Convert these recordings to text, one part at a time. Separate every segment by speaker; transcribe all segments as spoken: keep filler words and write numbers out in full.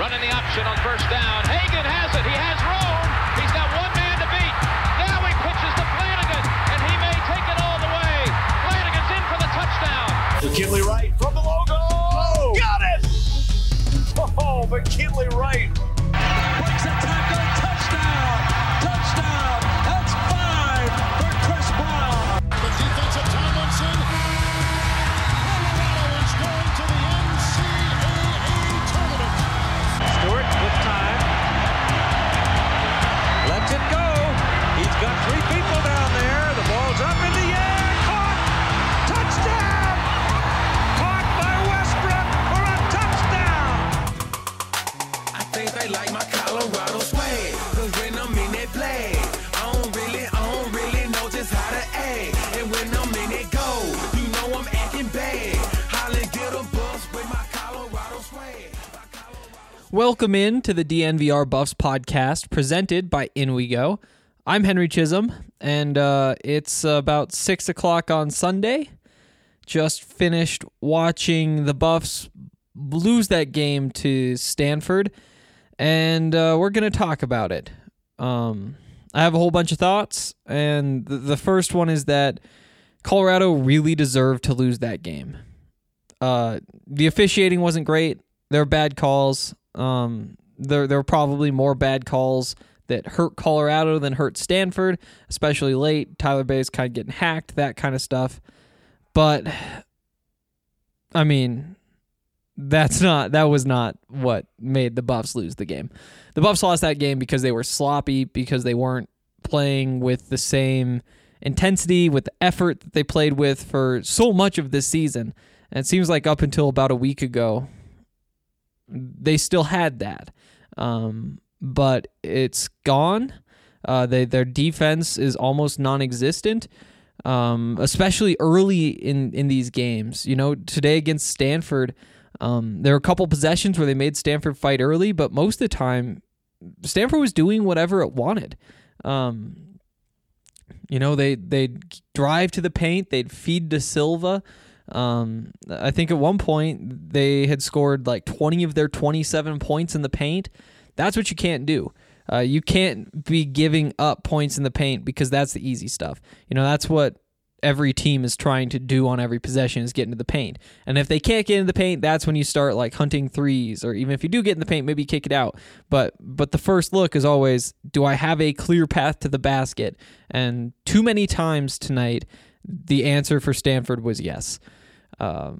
Speaker 1: Running the option on first down. Hagan has it. He has room. He's got one man to beat. Now he pitches to Flanagan, and he may take it all the way. Flanagan's in for the touchdown.
Speaker 2: McKinley Wright from the logo. Oh, got it! Oh, McKinley Wright.
Speaker 3: Breaks a tackle. Touchdown. Touchdown. That's five for Chris Brown.
Speaker 4: The defensive Tomlinson. Colorado is going to the N C double A tournament.
Speaker 3: Stewart with time. Lets it go. He's got three people down there. The ball's up in the air. Caught. Touchdown. Caught by Westbrook for a touchdown.
Speaker 5: I think they like my Colorado swag. Cause when I'm in that play, I don't really, I don't really know just how to act. And when I'm in it go, you know I'm acting bad. Holland get a bus with my Colorado swag.
Speaker 6: Welcome in to the D N V R Buffs podcast presented by In We Go. I'm Henry Chisholm, and uh, it's about six o'clock on Sunday. Just finished watching the Buffs lose that game to Stanford, and uh, we're going to talk about it. Um, I have a whole bunch of thoughts, and th- the first one is that Colorado really deserved to lose that game. Uh, the officiating wasn't great. There were bad calls. Um, there, there were probably more bad calls that hurt Colorado than hurt Stanford, especially late. Tyler Bay's kind of getting hacked, that kind of stuff. But, I mean, that's not, that was not what made the Buffs lose the game. The Buffs lost that game because they were sloppy, because they weren't playing with the same intensity, with the effort that they played with for so much of this season. And it seems like up until about a week ago, they still had that. Um, but it's gone. Uh, they, their defense is almost non-existent, um, especially early in, in these games. You know, today against Stanford, um, there were a couple possessions where they made Stanford fight early, but most of the time, Stanford was doing whatever it wanted. Um, you know, they, they'd drive to the paint, they'd feed to Silva. Um, I think at one point they had scored like twenty of their twenty-seven points in the paint. That's what you can't do. Uh, you can't be giving up points in the paint because that's the easy stuff. You know, that's what every team is trying to do on every possession, is get into the paint. And if they can't get into the paint, that's when you start like hunting threes, or even if you do get in the paint, maybe kick it out. But but the first look is always, do I have a clear path to the basket? And too many times tonight, the answer for Stanford was yes. Um,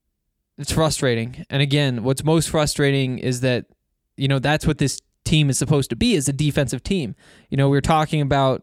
Speaker 6: it's frustrating. And again, what's most frustrating is that, you know, that's what this team is supposed to be, is a defensive team. You know, we were talking about,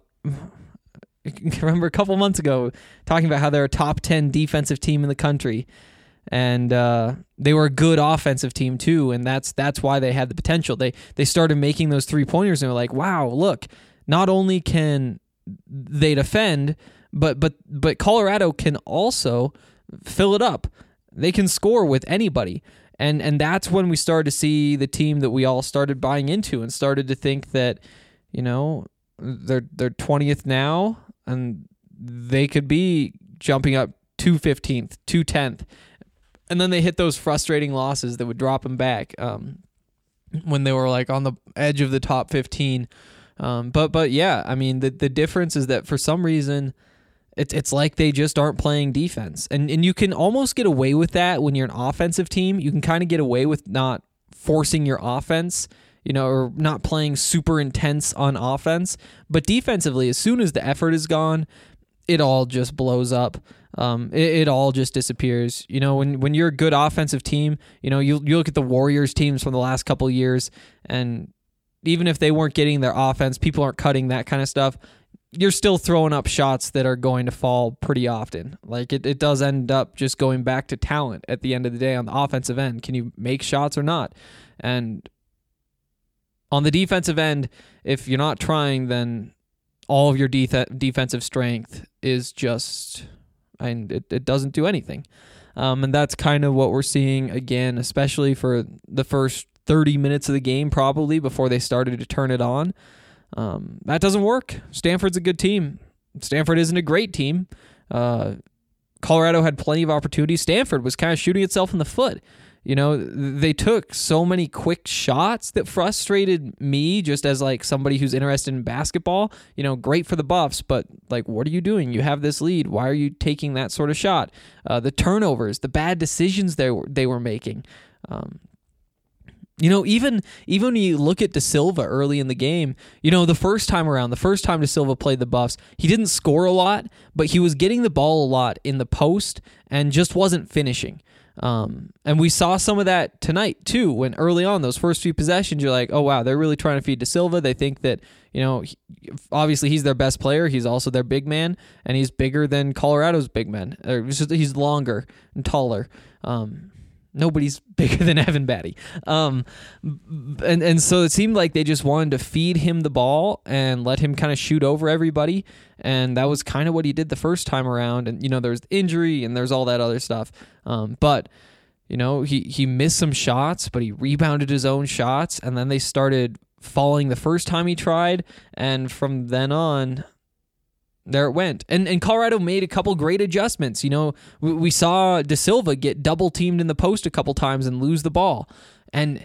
Speaker 6: remember a couple months ago, talking about how they're a top ten defensive team in the country. And uh, they were a good offensive team too, and that's that's why they had the potential. They they started making those three-pointers, and they're like, wow, look, not only can they defend, but but but Colorado can also fill it up. They can score with anybody. And and that's when we started to see the team that we all started buying into and started to think that, you know, they're they're twentieth now, and they could be jumping up to fifteenth, to tenth. And then they hit those frustrating losses that would drop them back um, when they were like on the edge of the top fifteen. Um, but but yeah, I mean, the the difference is that for some reason, It's it's like they just aren't playing defense. And and you can almost get away with that when you're an offensive team. You can kind of get away with not forcing your offense, you know, or not playing super intense on offense. But defensively, as soon as the effort is gone, it all just blows up. Um, it, it all just disappears. You know, when when you're a good offensive team, you know, you you look at the Warriors teams from the last couple of years, and even if they weren't getting their offense, people aren't cutting, that kind of stuff, you're still throwing up shots that are going to fall pretty often. Like it, it does end up just going back to talent at the end of the day on the offensive end. Can you make shots or not? And on the defensive end, if you're not trying, then all of your de- defensive strength is just, and it, it doesn't do anything. Um, and that's kind of what we're seeing again, especially for the first thirty minutes of the game, probably before they started to turn it on. Um, that doesn't work. Stanford's a good team. Stanford isn't a great team. Uh, Colorado had plenty of opportunities. Stanford was kind of shooting itself in the foot. You know, they took so many quick shots that frustrated me just as like somebody who's interested in basketball. You know, great for the Buffs, but like, what are you doing? You have this lead. Why are you taking that sort of shot? Uh, the turnovers, the bad decisions they were, they were making. Um, You know, even even when you look at De Silva early in the game, you know, the first time around, the first time De Silva played the Buffs, he didn't score a lot, but he was getting the ball a lot in the post and just wasn't finishing. Um, and we saw some of that tonight, too, when early on, those first few possessions, you're like, oh, wow, they're really trying to feed De Silva. They think that, you know, he, obviously he's their best player. He's also their big man, and he's bigger than Colorado's big men. Or just, he's longer and taller. Um Nobody's bigger than Evan Batty. Um, and, and so it seemed like they just wanted to feed him the ball and let him kind of shoot over everybody. And that was kind of what he did the first time around. And, you know, there's injury and there's all that other stuff. Um, but, you know, he, he missed some shots, but he rebounded his own shots. And then they started falling the first time he tried. And from then on, there it went. And and Colorado made a couple great adjustments. You know, we, we saw De Silva get double teamed in the post a couple times and lose the ball. And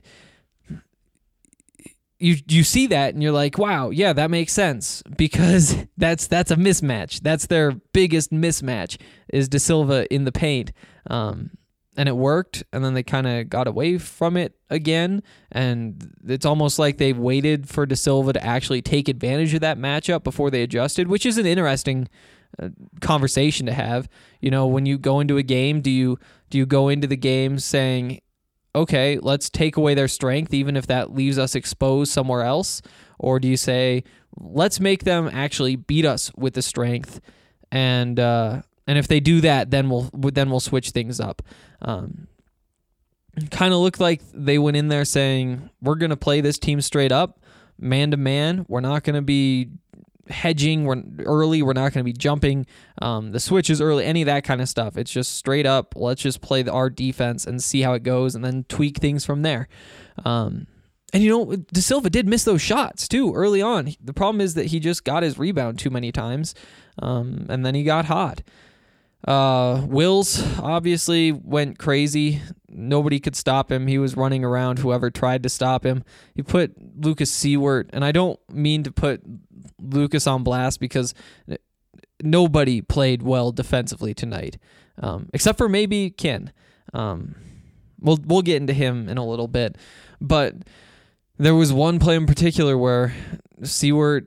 Speaker 6: you you see that and you're like, wow, yeah, that makes sense, because that's that's a mismatch. That's their biggest mismatch, is De Silva in the paint. Um And it worked, and then they kind of got away from it again, and it's almost like they waited for De Silva to actually take advantage of that matchup before they adjusted, which is an interesting uh, conversation to have. You know, when you go into a game, do you do you go into the game saying, okay, let's take away their strength, even if that leaves us exposed somewhere else? Or do you say, let's make them actually beat us with the strength, and uh, and if they do that, then we'll then we'll switch things up. Um, kind of looked like they went in there saying, we're going to play this team straight up, man to man. We're not going to be hedging we're early. We're not going to be jumping um, the switches early, any of that kind of stuff. It's just straight up, let's just play the, our defense and see how it goes, and then tweak things from there. Um, and, you know, De Silva did miss those shots, too, early on. The problem is that he just got his rebound too many times, um, and then he got hot. Uh, Wills obviously went crazy. Nobody could stop him. He was running around whoever tried to stop him. He put Lucas Seward, and I don't mean to put Lucas on blast, because nobody played well defensively tonight, um, except for maybe Ken. Um, we'll we'll get into him in a little bit, but there was one play in particular where Seward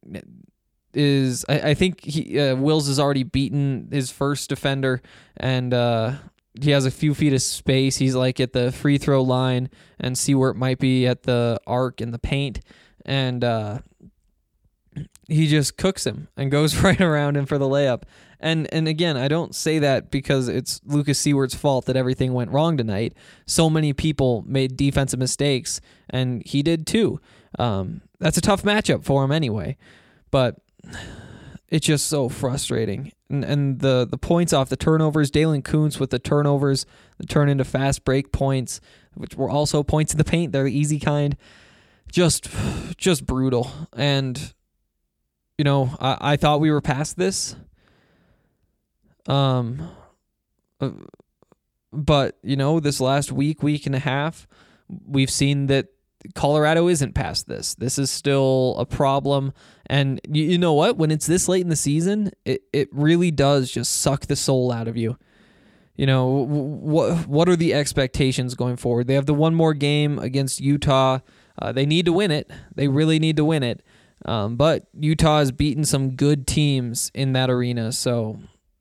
Speaker 6: is, I, I think he uh, Wills has already beaten his first defender, and uh, he has a few feet of space. He's like at the free throw line, and Seward might be at the arc in the paint, and uh, he just cooks him and goes right around him for the layup. And and again, I don't say that because it's Lucas Seward's fault that everything went wrong tonight. So many people made defensive mistakes, and he did too. Um, that's a tough matchup for him anyway, but it's just so frustrating. And, and the, the points off the turnovers, Dalen Kuntz with the turnovers that turn into fast break points, which were also points in the paint. They're the easy kind. Just, just brutal. And, you know, I, I thought we were past this. Um, but, you know, this last week, week and a half, we've seen that Colorado isn't past this. This is still a problem. And you, you know what? When it's this late in the season, it, it really does just suck the soul out of you. You know, what what are the expectations going forward? They have the one more game against Utah. Uh, they need to win it. They really need to win it. Um, but Utah has beaten some good teams in that arena. So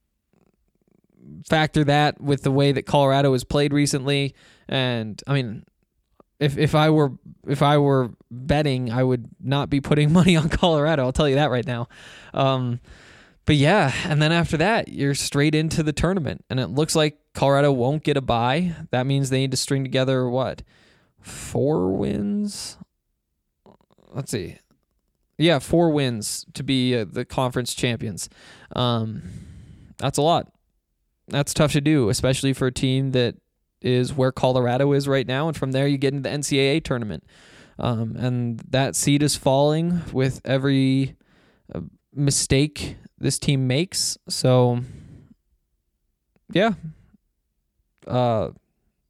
Speaker 6: factor that with the way that Colorado has played recently. And, I mean, If if I were if I were betting, I would not be putting money on Colorado. I'll tell you that right now. Um, but yeah, and then after that, you're straight into the tournament, and it looks like Colorado won't get a bye. That means they need to string together what, four wins? Let's see. Yeah, four wins to be uh, the conference champions. Um, that's a lot. That's tough to do, especially for a team that is where Colorado is right now, and from there you get into the N C double A tournament. Um, and that seed is falling with every uh, mistake this team makes. So, yeah. Uh,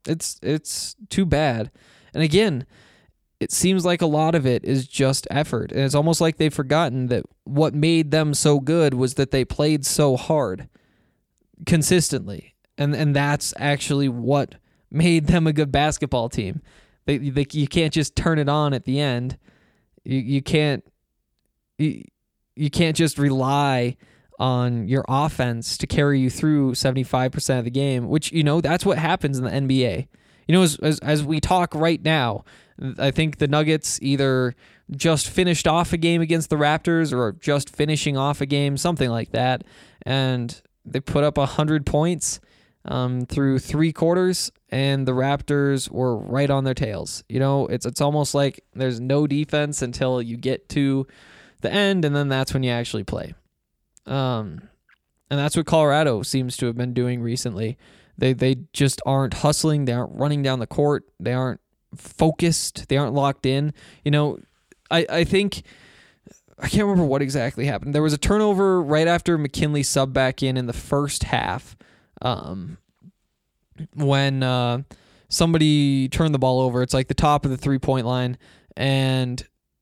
Speaker 6: It's it's too bad. And again, it seems like a lot of it is just effort. And it's almost like they've forgotten that what made them so good was that they played so hard consistently. And and that's actually what made them a good basketball team. They, they you can't just turn it on at the end. You you can't you, you can't just rely on your offense to carry you through seventy-five percent of the game, which, you know, that's what happens in the N B A. You know, as, as as we talk right now, I think the Nuggets either just finished off a game against the Raptors or just finishing off a game, something like that, and they put up one hundred points um, through three quarters, and the Raptors were right on their tails. You know, it's it's almost like there's no defense until you get to the end, and then that's when you actually play. Um, and that's what Colorado seems to have been doing recently. They they just aren't hustling. They aren't running down the court. They aren't focused. They aren't locked in. You know, I, I think, I can't remember what exactly happened. There was a turnover right after McKinley subbed back in in the first half um, when uh, somebody turned the ball over. It's like the top of the three-point line, and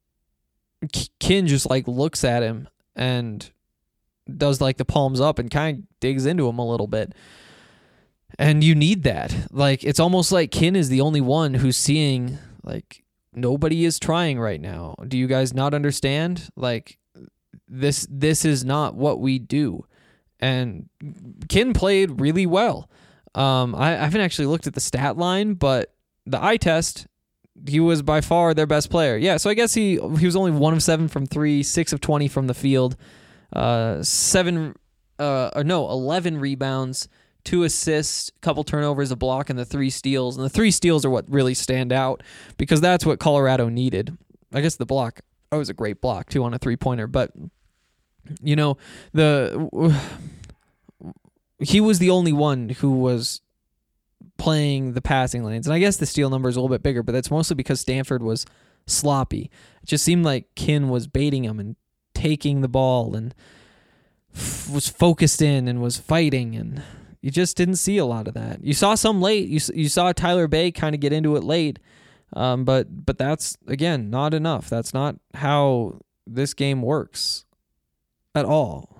Speaker 6: Kin just like looks at him and does like the palms up and kind of digs into him a little bit. And you need that. Like, it's almost like Kin is the only one who's seeing, like, nobody is trying right now. Do you guys not understand? Like, this this is not what we do. And Kin played really well. Um, I, I haven't actually looked at the stat line, but the eye test, he was by far their best player. Yeah, so I guess he he was only one of seven from three, six of twenty from the field. Uh, seven, uh, or no, eleven rebounds, two assists, a couple turnovers, a block, and the three steals. And the three steals are what really stand out because that's what Colorado needed. I guess the block, oh, it was a great block too on a three-pointer. But, you know, the he was the only one who was playing the passing lanes. And I guess the steal number is a little bit bigger, but that's mostly because Stanford was sloppy. It just seemed like Kin was baiting him and taking the ball and f- was focused in and was fighting, and you just didn't see a lot of that. You saw some late. You you saw Tyler Bay kind of get into it late, um, but but that's, again, not enough. That's not how this game works at all.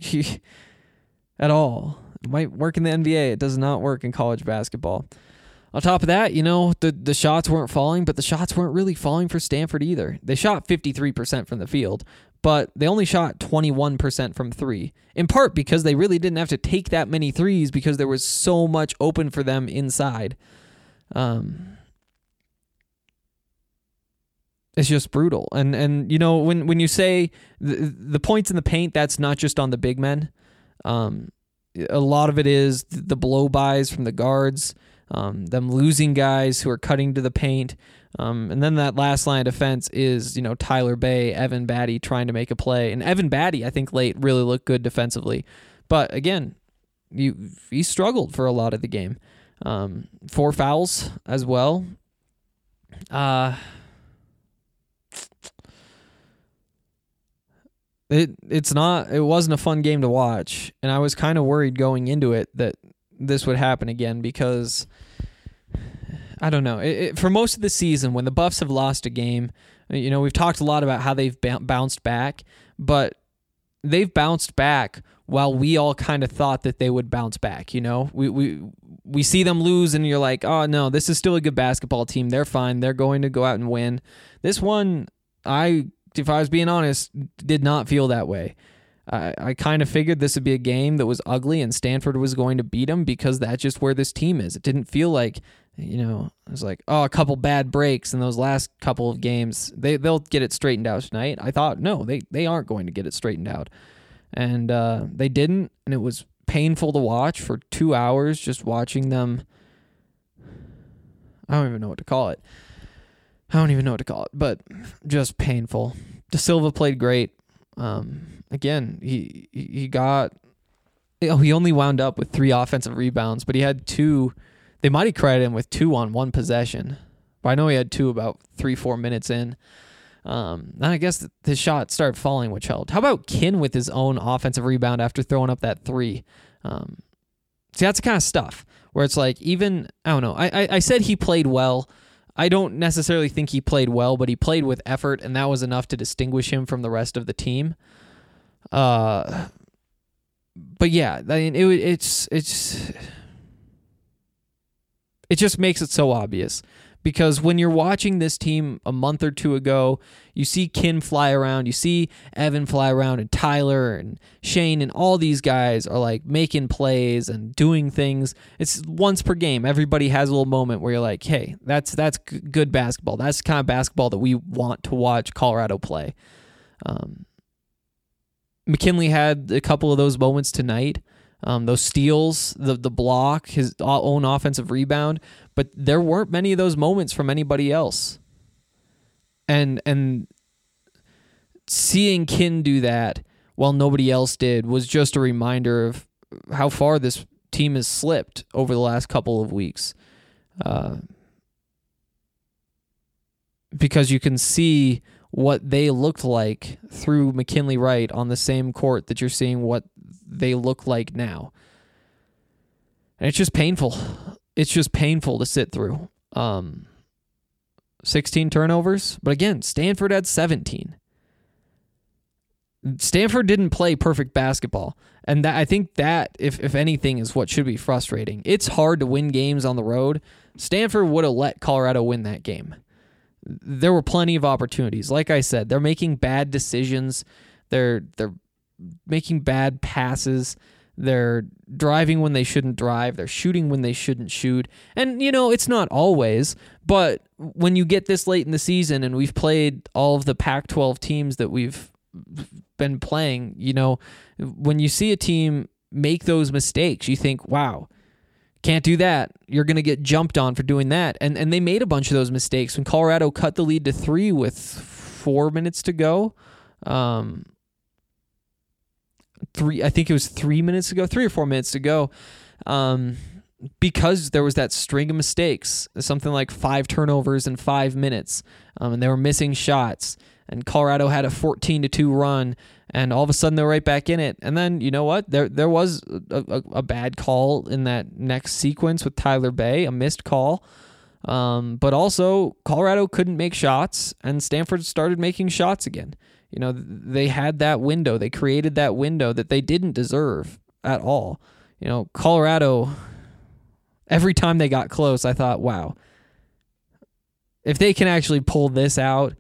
Speaker 6: At all. It might work in the N B A. It does not work in college basketball. On top of that, you know, the, the shots weren't falling, but the shots weren't really falling for Stanford either. They shot fifty-three percent from the field, but they only shot twenty-one percent from three, in part because they really didn't have to take that many threes because there was so much open for them inside. Um, it's just brutal. And, and you know, when, when you say the, the points in the paint, that's not just on the big men. Um, a lot of it is the blow-bys from the guards, um, them losing guys who are cutting to the paint. Um, and then that last line of defense is, you know, Tyler Bay, Evan Batty trying to make a play. And Evan Batty, I think, late really looked good defensively. But again, you he struggled for a lot of the game. Um, four fouls as well. Uh, it it's not it wasn't a fun game to watch, and I was kind of worried going into it that this would happen again because I don't know. It, it, for most of the season, when the Buffs have lost a game, you know, we've talked a lot about how they've b- bounced back, but they've bounced back while we all kind of thought that they would bounce back. You know, we we we see them lose, and you're like, oh no, this is still a good basketball team. They're fine. They're going to go out and win. This one, I, if I was being honest, did not feel that way. I, I kind of figured this would be a game that was ugly and Stanford was going to beat them because that's just where this team is. It didn't feel like, you know, it was like, oh, a couple bad breaks in those last couple of games. They, they'll get it straightened out tonight. I thought, no, they, they aren't going to get it straightened out. And uh, they didn't, and it was painful to watch for two hours just watching them. I don't even know what to call it. I don't even know what to call it, but just painful. De Silva played great. Um, again, he he got, oh, he only wound up with three offensive rebounds, but he had two. They might have credited him with two on one possession, but I know he had two about three, four minutes in. Um, and I guess his shot started falling, which helped. How about Kin with his own offensive rebound after throwing up that three? Um, see, that's the kind of stuff where it's like, even, I don't know, I, I, I said he played well. I don't necessarily think he played well, but he played with effort, and that was enough to distinguish him from the rest of the team. Uh, but yeah, I mean, it, it's it's it just makes it so obvious, because when you're watching this team a month or two ago, you see Kin fly around, you see Evan fly around, and Tyler and Shane and all these guys are like making plays and doing things. It's once per game. Everybody has a little moment where you're like, hey, that's that's g- good basketball. That's the kind of basketball that we want to watch Colorado play. Um, McKinley had a couple of those moments tonight. Um, those steals, the the block, his own offensive rebound, but there weren't many of those moments from anybody else. And and seeing Kin do that while nobody else did was just a reminder of how far this team has slipped over the last couple of weeks. Uh, because you can see what they looked like through McKinley Wright on the same court that you're seeing what they look like now. And it's just painful. It's just painful to sit through. Um, sixteen turnovers, but again, Stanford had seventeen. Stanford didn't play perfect basketball, and that, I think that, if if anything, is what should be frustrating. It's hard to win games on the road. Stanford would have let Colorado win that game. There were plenty of opportunities. Like I said, they're making bad decisions. They're they're making bad passes. They're driving when they shouldn't drive. They're shooting when they shouldn't shoot. And, you know, it's not always, but when you get this late in the season and we've played all of the Pac twelve teams that we've been playing, you know, when you see a team make those mistakes, you think, wow, can't do that. You're going to get jumped on for doing that. And and they made a bunch of those mistakes when Colorado cut the lead to three with four minutes to go. Um, three, I think it was three minutes to go, three or four minutes to go. Um, because there was that string of mistakes, something like five turnovers in five minutes. Um, and they were missing shots. And Colorado had a fourteen to two run, and all of a sudden they're right back in it. And then, you know what? There there was a, a, a bad call in that next sequence with Tyler Bay, a missed call. Um, but also, Colorado couldn't make shots, and Stanford started making shots again. You know, they had that window. They created that window that they didn't deserve at all. You know, Colorado, every time they got close, I thought, wow, if they can actually pull this out,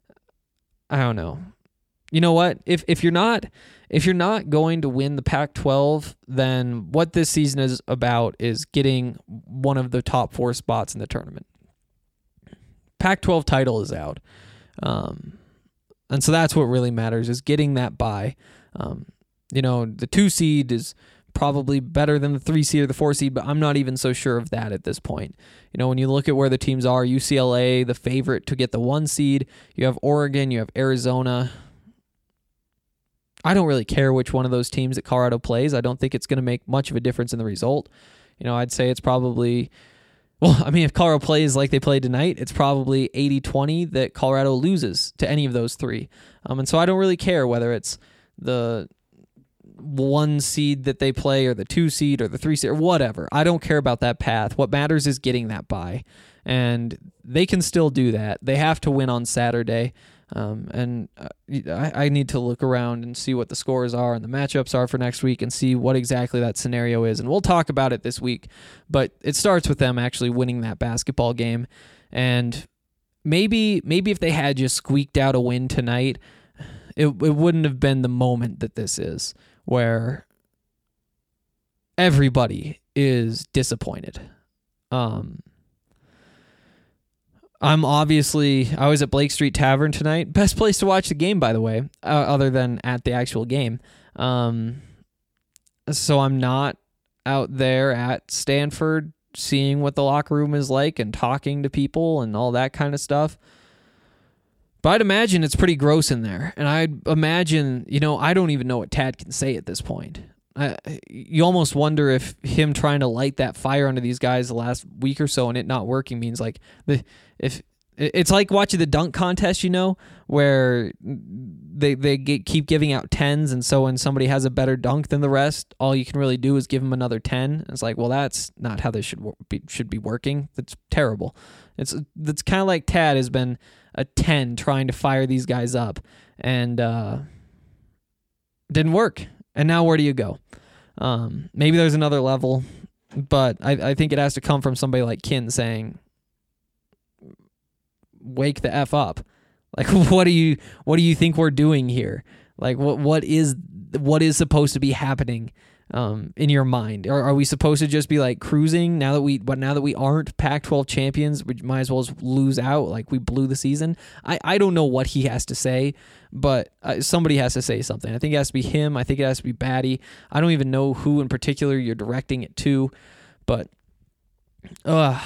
Speaker 6: I don't know. You know what? If if you're not if you're not going to win the Pac twelve, then what this season is about is getting one of the top four spots in the tournament. Pac twelve title is out. Um, and so that's what really matters, is getting that bye. Um, you know, the two seed is probably better than the three seed or the four seed, but I'm not even so sure of that at this point. You know, when you look at where the teams are, U C L A, the favorite to get the one seed, you have Oregon, you have Arizona. I don't really care which one of those teams that Colorado plays. I don't think it's going to make much of a difference in the result. You know, I'd say it's probably, well, I mean, if Colorado plays like they played tonight, it's probably eighty twenty that Colorado loses to any of those three. Um, and so I don't really care whether it's the one seed that they play or the two seed or the three seed or whatever. I don't care about that path. What matters is getting that bye, and they can still do that. They have to win on Saturday. Um, and I, I need to look around and see what the scores are and the matchups are for next week and see what exactly that scenario is. And we'll talk about it this week, but it starts with them actually winning that basketball game. And maybe, maybe if they had just squeaked out a win tonight, it, it wouldn't have been the moment that this is, where everybody is disappointed. Um, I'm obviously, I was at Blake Street Tavern tonight. Best place to watch the game, by the way, uh, other than at the actual game. Um, so I'm not out there at Stanford seeing what the locker room is like and talking to people and all that kind of stuff. But I'd imagine it's pretty gross in there. And I'd imagine, you know, I don't even know what Tad can say at this point. I, you almost wonder if him trying to light that fire under these guys the last week or so and it not working means like the if it's like watching the dunk contest, you know, where they they get, keep giving out tens, and so when somebody has a better dunk than the rest, all you can really do is give them another ten. It's like, well, that's not how this should be, should be working. That's terrible. It's that's kind of like Tad has been a ten trying to fire these guys up, and uh, didn't work. And now where do you go? Um, maybe there's another level, but I, I think it has to come from somebody like Kin saying, wake the F up. Like, what do you what do you think we're doing here? Like, what what is what is supposed to be happening um, in your mind? Or are we supposed to just be like cruising now that we but now that we aren't Pac twelve champions, we might as well just lose out like we blew the season? I, I don't know what he has to say, but uh, somebody has to say something. I think it has to be him. I think it has to be Batty. I don't even know who in particular you're directing it to, but ugh.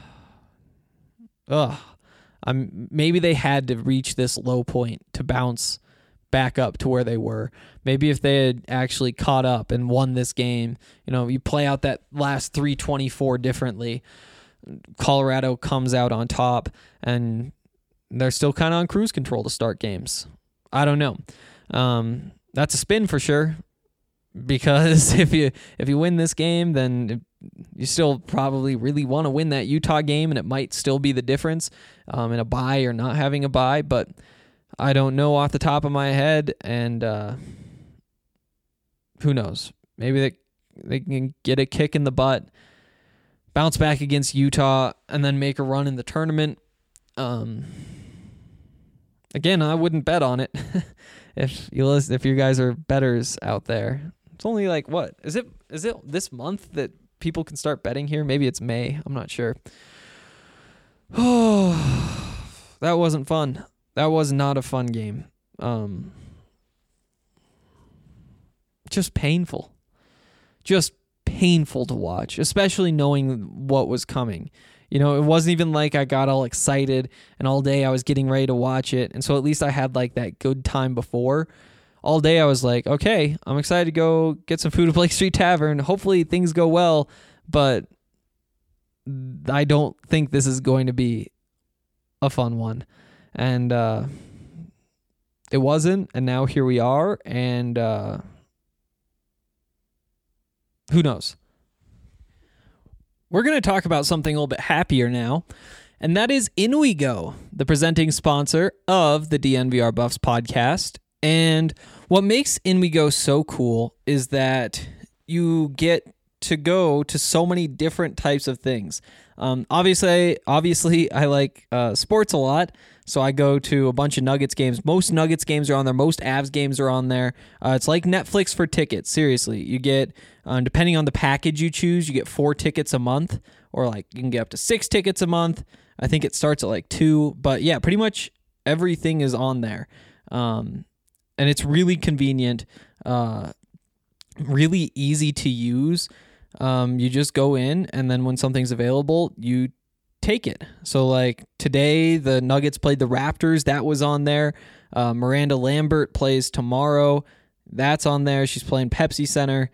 Speaker 6: Ugh. Um, maybe they had to reach this low point to bounce back up to where they were. Maybe if they had actually caught up and won this game, you know, you play out that last three twenty-four differently. Colorado comes out on top, and they're still kind of on cruise control to start games. I don't know. Um, that's a spin for sure, because if you if you win this game, then you still probably really want to win that Utah game, and it might still be the difference um, in a bye or not having a bye. But I don't know off the top of my head, and uh, who knows? Maybe they they can get a kick in the butt, bounce back against Utah, and then make a run in the tournament. Um, again, I wouldn't bet on it. if you listen, if you guys are bettors out there, it's only like what is it? Is it this month that people can start betting here? Maybe it's May. I'm not sure. Oh, that wasn't fun. That was not a fun game. Um, just painful. Just painful to watch, especially knowing what was coming. You know, it wasn't even like I got all excited and all day I was getting ready to watch it. And so at least I had like that good time before. All day I was like, okay, I'm excited to go get some food at Blake Street Tavern. Hopefully things go well, but I don't think this is going to be a fun one. And uh, it wasn't, and now here we are, and uh, who knows? We're going to talk about something a little bit happier now, and that is In We Go, the presenting sponsor of the D N V R Buffs podcast. And what makes In We Go so cool is that you get to go to so many different types of things. Um, obviously, obviously, I like uh, sports a lot, so I go to a bunch of Nuggets games. Most Nuggets games are on there. Most Avs games are on there. Uh, it's like Netflix for tickets. Seriously, you get, um, depending on the package you choose, you get four tickets a month, or like you can get up to six tickets a month. I think it starts at like two, but yeah, pretty much everything is on there. Um, And it's really convenient, uh, really easy to use. Um, you just go in, and then when something's available, you take it. So, like, today, the Nuggets played the Raptors. That was on there. Uh, Miranda Lambert plays tomorrow. That's on there. She's playing Pepsi Center.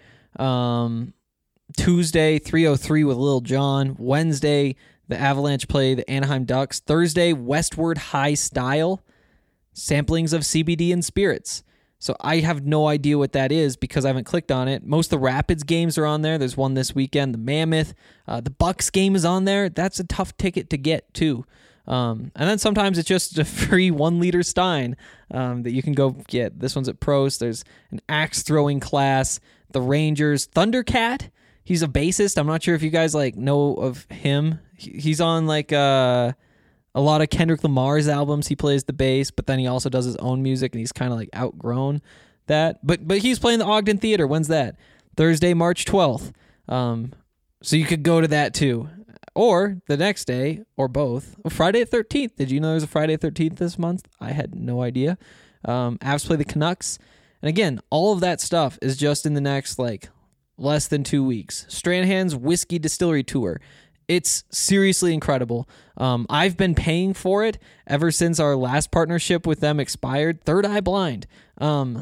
Speaker 6: Um, Tuesday, three oh three with Lil Jon. Wednesday, the Avalanche play the Anaheim Ducks. Thursday, Westward High Style. Samplings of C B D and spirits. So I have no idea what that is because I haven't clicked on it. Most of the Rapids games are on there. There's one this weekend, the Mammoth. Uh, the Bucks game is on there. That's a tough ticket to get, too. Um, and then sometimes it's just a free one-liter Stein um, that you can go get. This one's at Prost. There's an axe-throwing class. The Rangers. Thundercat. He's a bassist. I'm not sure if you guys like know of him. He's on like... Uh, A lot of Kendrick Lamar's albums, he plays the bass, but then he also does his own music, and he's kind of like outgrown that. But but he's playing the Ogden Theater. When's that? Thursday, March twelfth. Um, so you could go to that too. Or the next day, or both. Oh, Friday the thirteenth. Did you know there's a Friday the thirteenth this month? I had no idea. Um, Avs play the Canucks. And again, all of that stuff is just in the next, like, less than two weeks. Stranahan's Whiskey Distillery Tour. It's seriously incredible. Um, I've been paying for it ever since our last partnership with them expired. Third Eye Blind. Um,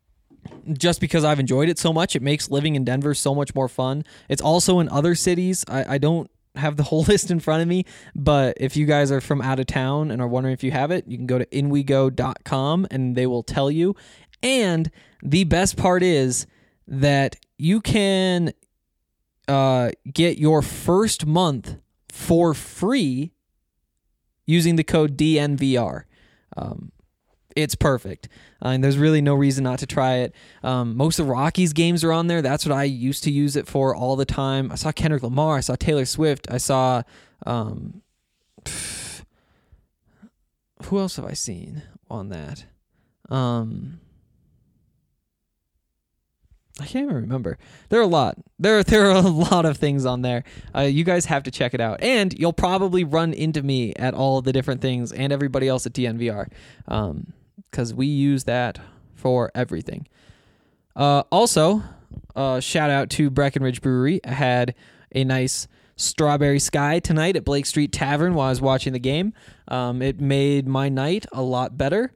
Speaker 6: just because I've enjoyed it so much, it makes living in Denver so much more fun. It's also in other cities. I, I don't have the whole list in front of me, but if you guys are from out of town and are wondering if you have it, you can go to in we go dot com and they will tell you. And the best part is that you can uh, get your first month for free using the code D N V R. Um, it's perfect. Uh, and there's really no reason not to try it. Um, most of the Rockies games are on there. That's what I used to use it for all the time. I saw Kendrick Lamar. I saw Taylor Swift. I saw... Um, who else have I seen on that? Um... I can't even remember. There are a lot. There, there are a lot of things on there. Uh, you guys have to check it out. And you'll probably run into me at all the different things and everybody else at D N V R um, because we use that for everything. Uh, also, uh, shout out to Breckenridge Brewery. I had a nice strawberry sky tonight at Blake Street Tavern while I was watching the game. Um, it made my night a lot better.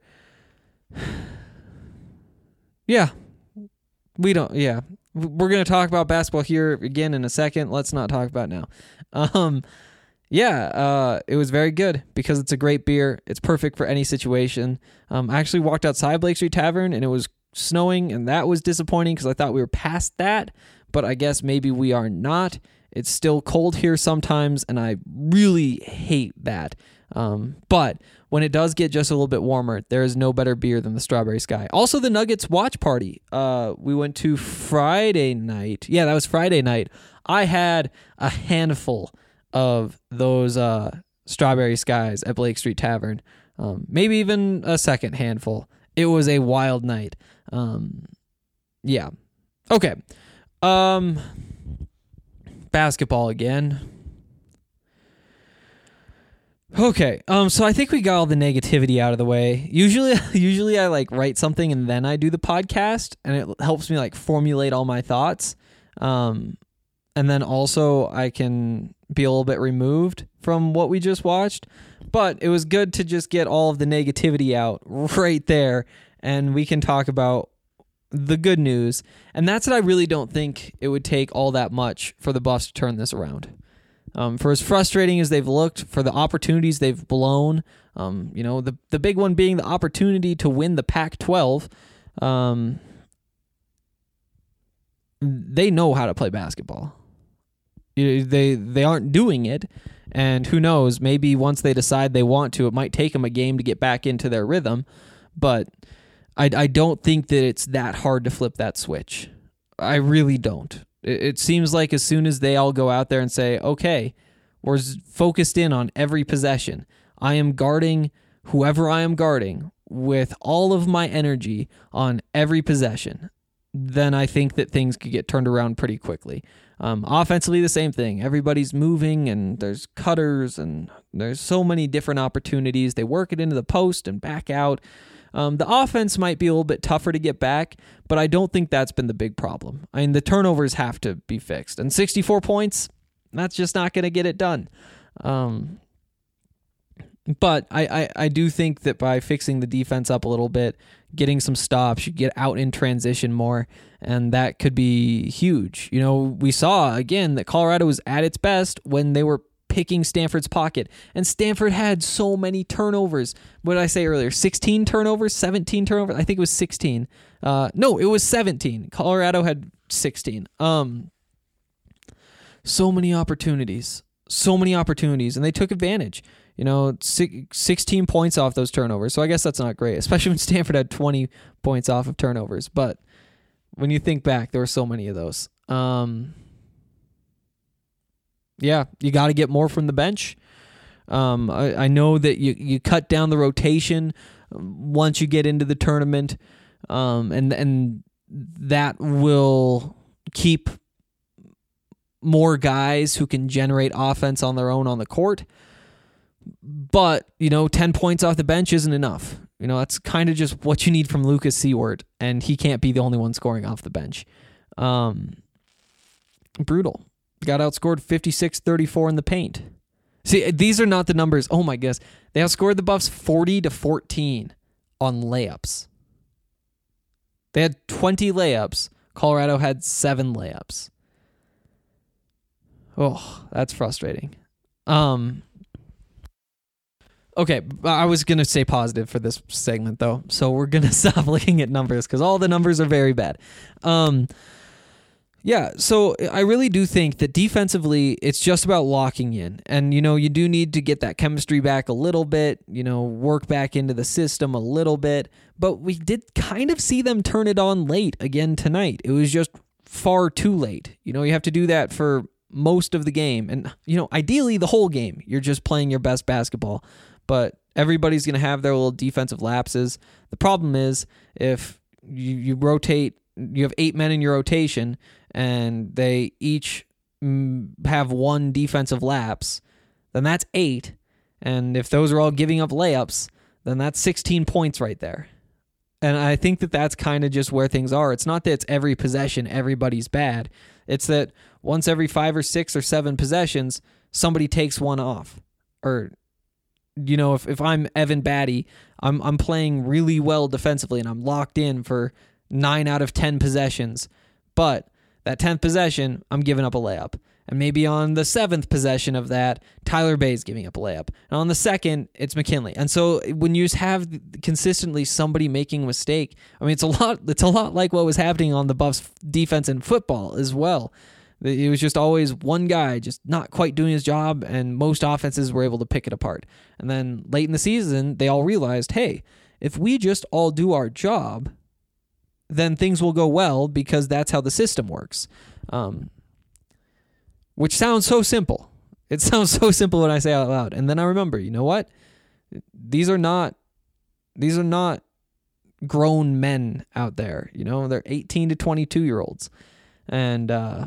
Speaker 6: Yeah. We don't, yeah. We're going to talk about basketball here again in a second. Let's not talk about it now. Um, yeah, uh, it was very good because it's a great beer. It's perfect for any situation. Um, I actually walked outside Blake Street Tavern and it was snowing, and that was disappointing because I thought we were past that, but I guess maybe we are not. It's still cold here sometimes, and I really hate that. Um, but when it does get just a little bit warmer, there is no better beer than the Strawberry Sky. Also, the Nuggets watch party. Uh, we went to Friday night. Yeah, that was Friday night. I had a handful of those uh, Strawberry Skies at Blake Street Tavern. Um, maybe even a second handful. It was a wild night. Um, yeah. Okay. Um, basketball again. Okay, um, so I think we got all the negativity out of the way. Usually, usually I like write something and then I do the podcast, and it helps me like formulate all my thoughts. Um, and then also I can be a little bit removed from what we just watched. But it was good to just get all of the negativity out right there, and we can talk about the good news. And that's what I really don't think it would take all that much for the Buffs to turn this around. Um, for as frustrating as they've looked, for the opportunities they've blown, um, you know, the the big one being the opportunity to win the Pac twelve, um, they know how to play basketball. They they aren't doing it, and who knows, maybe once they decide they want to, it might take them a game to get back into their rhythm, but I, I don't think that it's that hard to flip that switch. I really don't. It seems like as soon as they all go out there and say, okay, we're focused in on every possession. I am guarding whoever I am guarding with all of my energy on every possession. Then I think that things could get turned around pretty quickly. Um, offensively, the same thing. Everybody's moving and there's cutters and there's so many different opportunities. They work it into the post and back out. Um, the offense might be a little bit tougher to get back, but I don't think that's been the big problem. I mean, the turnovers have to be fixed. And sixty-four points, that's just not going to get it done. Um, but I, I, I do think that by fixing the defense up a little bit, getting some stops, you get out in transition more, and that could be huge. You know, we saw, again, that Colorado was at its best when they were picking Stanford's pocket, and Stanford had so many turnovers. What did I say earlier? sixteen turnovers, seventeen turnovers. I think it was sixteen. Uh, no, it was seventeen. Colorado had sixteen. Um, so many opportunities, so many opportunities, and they took advantage. You know, sixteen points off those turnovers. So I guess that's not great, especially when Stanford had twenty points off of turnovers. But when you think back, there were so many of those. Um, Yeah, you got to get more from the bench. Um, I, I know that you, you cut down the rotation once you get into the tournament, um, and and that will keep more guys who can generate offense on their own on the court. But, you know, ten points off the bench isn't enough. You know, that's kind of just what you need from Lucas Seward, and he can't be the only one scoring off the bench. Um, brutal. Got outscored fifty-six thirty-four in the paint. See, these are not the numbers. Oh my goodness. They outscored the Buffs forty to fourteen on layups. They had twenty layups. Colorado had seven layups. Oh, that's frustrating. Um, okay, I was going to say positive for this segment, though, so we're going to stop looking at numbers because all the numbers are very bad. Um, yeah, so I really do think that defensively, it's just about locking in. And, you know, you do need to get that chemistry back a little bit, you know, work back into the system a little bit. But we did kind of see them turn it on late again tonight. It was just far too late. You know, you have to do that for most of the game. And, you know, ideally the whole game, you're just playing your best basketball. But everybody's going to have their little defensive lapses. The problem is if you, you rotate, you have eight men in your rotation, and they each have one defensive lapse, then that's eight. And if those are all giving up layups, then that's sixteen points right there. And I think that that's kind of just where things are. It's not that it's every possession, everybody's bad. It's that once every five or six or seven possessions, somebody takes one off. Or, you know, if, if I'm Evan Batty, I'm I'm playing really well defensively and I'm locked in for nine out of ten possessions. But that tenth possession, I'm giving up a layup. And maybe on the seventh possession of that, Tyler Bay's giving up a layup. And on the second, it's McKinley. And so when you just have consistently somebody making a mistake, I mean, it's a lot, it's a lot like what was happening on the Buffs defense in football as well. It was just always one guy just not quite doing his job, and most offenses were able to pick it apart. And then late in the season, they all realized, hey, if we just all do our job, then things will go well because that's how the system works. Um, which sounds so simple. It sounds so simple when I say it out loud. And then I remember, you know what? These are not, these are not grown men out there. You know, they're eighteen to twenty-two year olds. And, uh,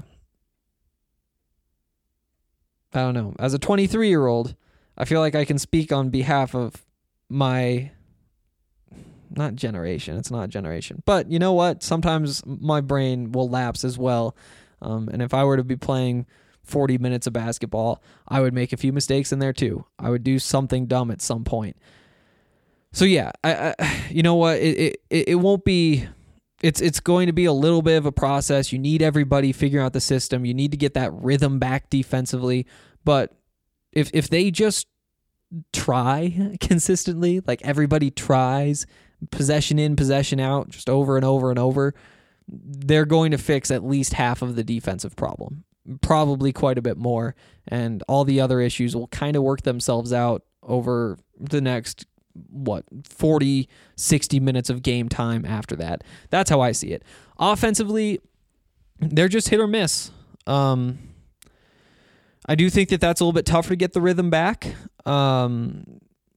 Speaker 6: I don't know. As a twenty-three year old, I feel like I can speak on behalf of my, not generation. It's not generation. But you know what? Sometimes my brain will lapse as well. Um, and if I were to be playing forty minutes of basketball, I would make a few mistakes in there too. I would do something dumb at some point. So yeah, I, I you know what? It, it it won't be. It's it's going to be a little bit of a process. You need everybody figuring out the system. You need to get that rhythm back defensively. But if if they just try consistently, like everybody tries, possession in, possession out, just over and over and over, they're going to fix at least half of the defensive problem, probably quite a bit more, and all the other issues will kind of work themselves out over the next, what, forty, sixty minutes of game time after that. That's how I see it. Offensively, they're just hit or miss. Um, I do think that that's a little bit tougher to get the rhythm back. Um,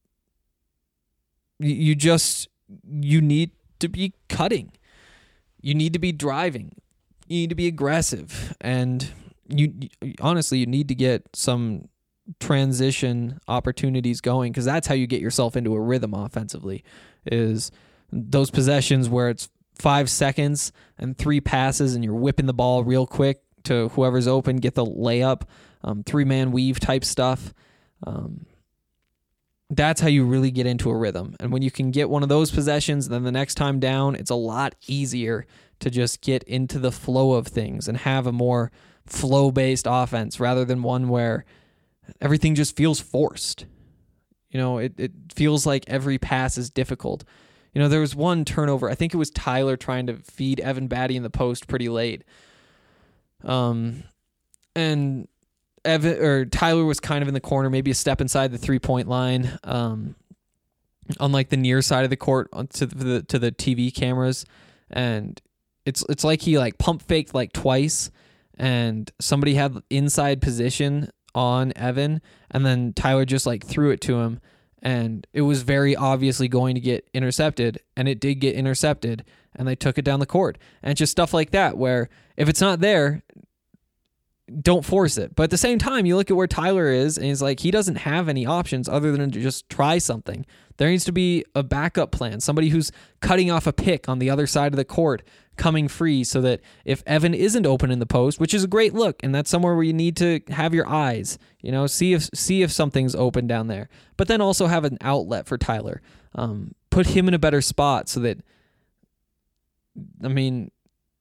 Speaker 6: you, you just... You need to be cutting. You need to be driving. You need to be aggressive. And you, you honestly, you need to get some transition opportunities going, because that's how you get yourself into a rhythm offensively, is those possessions where it's five seconds and three passes and you're whipping the ball real quick to whoever's open, get the layup, um, three-man weave type stuff. Um That's how you really get into a rhythm. And when you can get one of those possessions, then the next time down, it's a lot easier to just get into the flow of things and have a more flow-based offense rather than one where everything just feels forced. You know, it, it feels like every pass is difficult. You know, there was one turnover. I think it was Tyler trying to feed Evan Batty in the post pretty late. Um, and... Evan or Tyler was kind of in the corner, maybe a step inside the three-point line, um, on like the near side of the court to the to the T V cameras, and it's it's like he like pump faked like twice, and somebody had inside position on Evan, and then Tyler just like threw it to him, and it was very obviously going to get intercepted, and it did get intercepted, and they took it down the court, and it's just stuff like that where if it's not there, don't force it. But at the same time, you look at where Tyler is, and he's like, he doesn't have any options other than to just try something. There needs to be a backup plan, somebody who's cutting off a pick on the other side of the court, coming free, so that if Evan isn't open in the post, which is a great look, and that's somewhere where you need to have your eyes, you know, see if see if something's open down there. But then also have an outlet for Tyler. Um, put him in a better spot so that, I mean,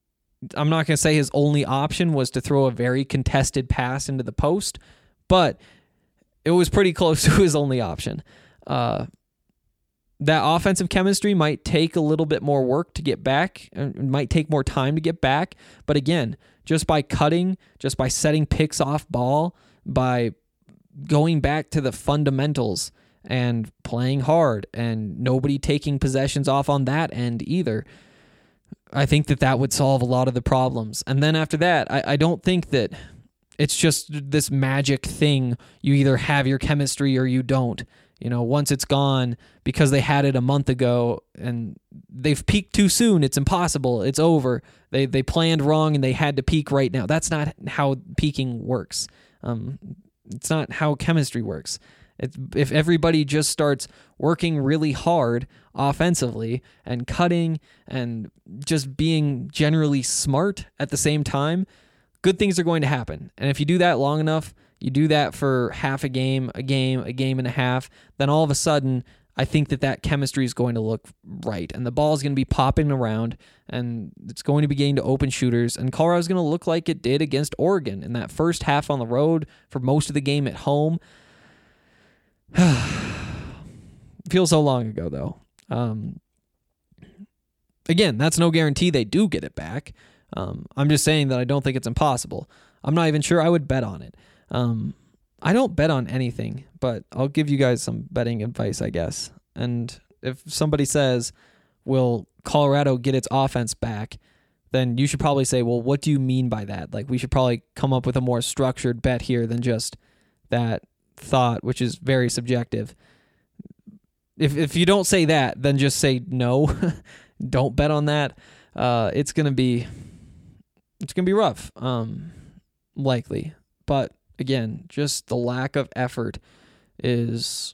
Speaker 6: I'm not going to say his only option was to throw a very contested pass into the post, but it was pretty close to his only option. Uh, that offensive chemistry might take a little bit more work to get back. It might take more time to get back. But again, just by cutting, just by setting picks off ball, by going back to the fundamentals and playing hard and nobody taking possessions off on that end either, I think that that would solve a lot of the problems. And then after that, I, I don't think that it's just this magic thing. You either have your chemistry or you don't. You know, once it's gone because they had it a month ago and they've peaked too soon, it's impossible. It's over. They they planned wrong and they had to peak right now. That's not how peaking works. Um, it's not how chemistry works. It's, if everybody just starts working really hard offensively and cutting and just being generally smart at the same time, good things are going to happen. And if you do that long enough, you do that for half a game, a game, a game and a half, then all of a sudden, I think that that chemistry is going to look right. And the ball is going to be popping around, and it's going to be getting to open shooters. And Colorado's going to look like it did against Oregon in that first half on the road for most of the game at home. Feels so long ago, though. Um, again, that's no guarantee they do get it back. Um, I'm just saying that I don't think it's impossible. I'm not even sure I would bet on it. Um, I don't bet on anything, but I'll give you guys some betting advice, I guess. And if somebody says, will Colorado get its offense back, then you should probably say, well, what do you mean by that? Like, we should probably come up with a more structured bet here than just that thought, which is very subjective. If if you don't say that, then just say no. Don't bet on that. Uh, it's gonna be it's gonna be rough, um, likely. But again, just the lack of effort is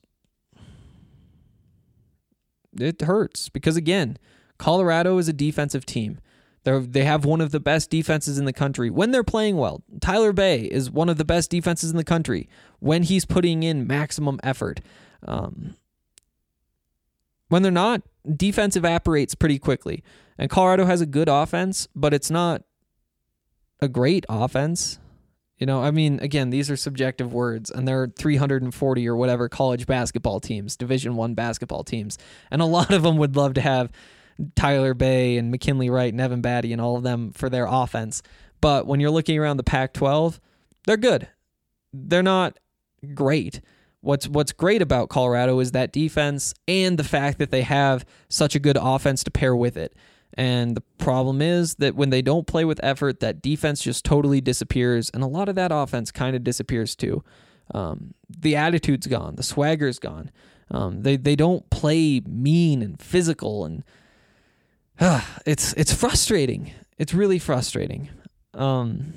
Speaker 6: it hurts because again, Colorado is a defensive team. They they have one of the best defenses in the country when they're playing well. Tyler Bay is one of the best defenses in the country when he's putting in maximum effort. Um, when they're not, defense evaporates pretty quickly. And Colorado has a good offense, but it's not a great offense. You know, I mean, again, these are subjective words, and there are three hundred forty or whatever college basketball teams, Division One basketball teams, and a lot of them would love to have Tyler Bay and McKinley Wright and Evan Batty and all of them for their offense. But when you're looking around the Pac twelve, they're good. They're not great. What's what's great about Colorado is that defense and the fact that they have such a good offense to pair with it. And the problem is that when they don't play with effort, that defense just totally disappears, and a lot of that offense kind of disappears too. Um, the attitude's gone. The swagger's gone. Um, they they don't play mean and physical, and uh, it's it's frustrating. It's really frustrating. Um,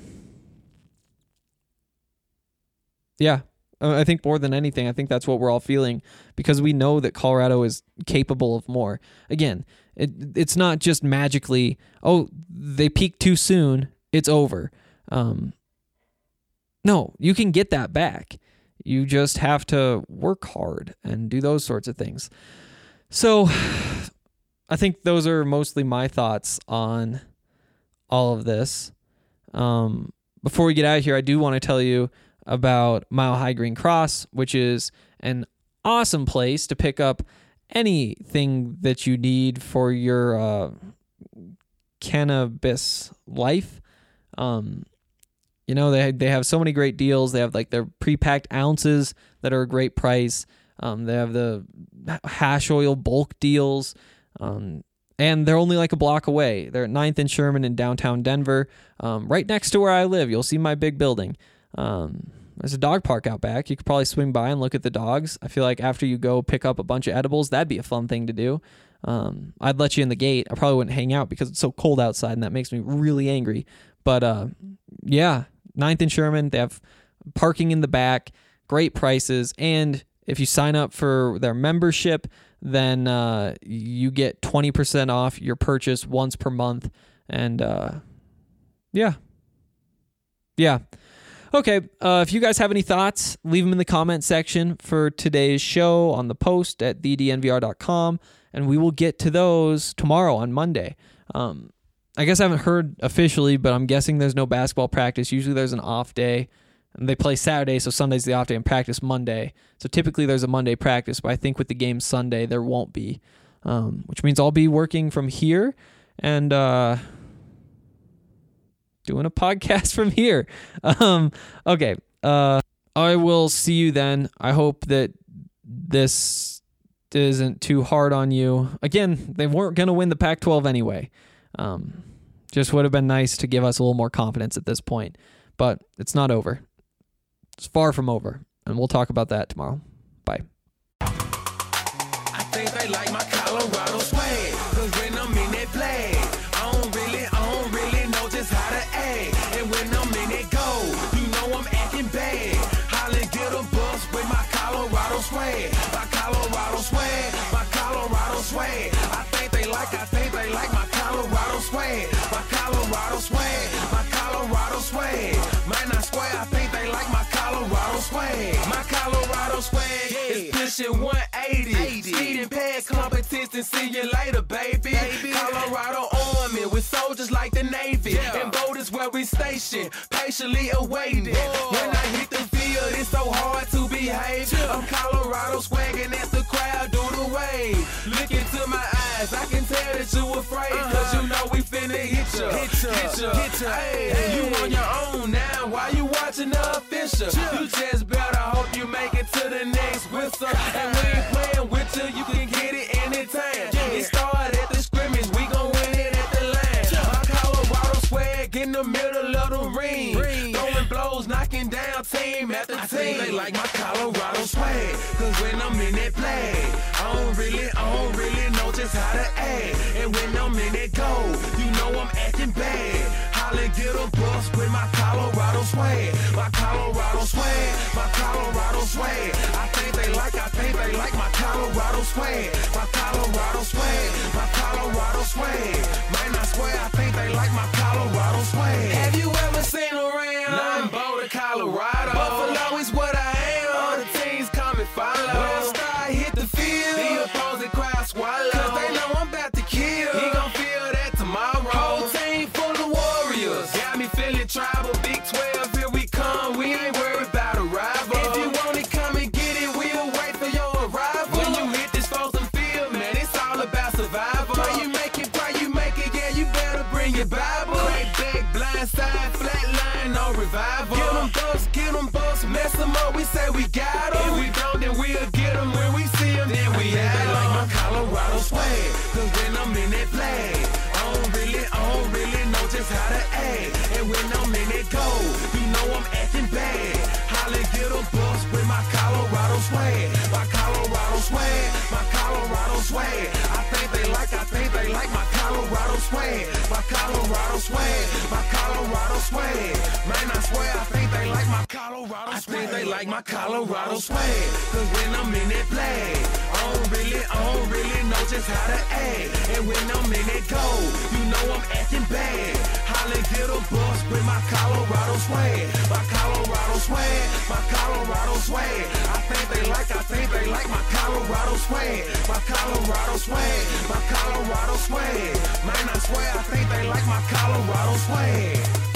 Speaker 6: yeah. I think more than anything, I think that's what we're all feeling because we know that Colorado is capable of more. Again, it it's not just magically, oh, they peaked too soon, it's over. Um, no, you can get that back. You just have to work hard and do those sorts of things. So I think those are mostly my thoughts on all of this. Um, before we get out of here, I do want to tell you about Mile High Green Cross, which is an awesome place to pick up anything that you need for your uh, cannabis life. Um, you know, they they have so many great deals. They have like their pre-packed ounces that are a great price. Um, they have the hash oil bulk deals. Um, and they're only like a block away. They're at ninth and Sherman in downtown Denver, um, right next to where I live. You'll see my big building. Um, there's a dog park out back. You could probably swing by and look at the dogs. I feel like after you go pick up a bunch of edibles, that'd be a fun thing to do. Um, I'd let you in the gate. I probably wouldn't hang out because it's so cold outside and that makes me really angry. But, uh, yeah, ninth and Sherman, they have parking in the back, great prices. And if you sign up for their membership, then, uh, you get twenty percent off your purchase once per month. And, uh, yeah, yeah. Okay, uh, if you guys have any thoughts, leave them in the comment section for today's show on the post at the d n v r dot com, and we will get to those tomorrow on Monday. Um, I guess I haven't heard officially, but I'm guessing there's no basketball practice. Usually there's an off day. And they play Saturday, so Sunday's the off day, and practice Monday. So typically there's a Monday practice, but I think with the game Sunday, there won't be, um, which means I'll be working from here and uh, doing a podcast from here. Um, okay, uh, I will see you then. I hope that this isn't too hard on you. Again, they weren't going to win the Pac twelve anyway. Um, just would have been nice to give us a little more confidence at this point, but it's not over. It's far from over, and we'll talk about that tomorrow. Bye.
Speaker 5: I think they like my Colorado swag, cause when I'm in that flag, I don't really, I don't really know just how to act. And when I'm in that go, you know I'm acting bad. Holla, get a bus with my Colorado swag, my Colorado swag, my Colorado swag. I think they like, I think they like my Colorado swag, my Colorado swag, my Colorado swag. Man, I swear, I think they like my Colorado swag. My Colorado swag is pushing one eighty. Speeding past competition, see you later, baby. baby. Colorado Army with soldiers like the Navy. Yeah. And voters where we stationed, patiently awaiting. Whoa. When I hit the field, it's so hard to behave. Yeah. I'm Colorado swagging as the crowd do the wave. Look into my eyes, I can tell that you afraid. Uh-huh. Cause you know we finna hit ya. Hit ya, hit ya, hit ya. Hey, hey. You on your own now, why you watching the official? Yeah. You just better hope you make it to the next whistle. And we ain't playing with you, you can get it anytime. Yeah. It started at the scrimmage, we gon' win it at the line. Yeah. My Colorado swag in the middle of the ring. ring. Throwing blows, knocking down team after I team. They like my Colorado swag, cause when I'm in that flag, I don't really, I don't really know just how to act. And when I'm in that go, you know I'm acting bad. Holla, get a bus with my Colorado swag, my Colorado swag, my Colorado swag. I think they like, I think they like my Colorado swag, my Colorado swag, my Colorado swag. Man, I swear, I think they like my Colorado swag. Have you ever seen around? Nah, I'm Boulder, Colorado. Buffalo is what I am. All the teams come and follow. When I start hit the field, the opposing crowd swallow. Cause they know I'm about to kill. He gon' feel that tomorrow. Whole team full of warriors. Got me feeling tribal. Big twelve, here we come. We ain't worried about a rival. If you want it, come and get it. We'll wait for your arrival. When you hit this Folsom field, man, it's all about survival. Pray you make it, pray you make it. Yeah, you better bring your Bible. Crack back, blind side, flat line, no revival. Get them bucks, get them bucks, mess them up. We say we got them. If we don't, then we'll get them. When we see them, then we have them. Like my Colorado swag, cause when I'm in that flag, I don't really, I don't really know just how to act. And when I'm in that go, you know I'm acting bad. Holla, get a bus with my Colorado swag, my Colorado swag, my Colorado swag. I think they like, I think they like my Colorado swag, my Colorado swag, my Colorado swag. Man, I swear, I think they like my Colorado swag. I think they like my Colorado swag, cause when I'm in that flag, I don't really, I don't really know just how to act. And when I'm in that go, you know I'm acting bad. Holla, get a bus with my Colorado swag, my Colorado swag, my Colorado swag. I think they like, I think they like my Colorado swag, my Colorado swag, my Colorado swag. Man, I swear, I think they like my Colorado swag.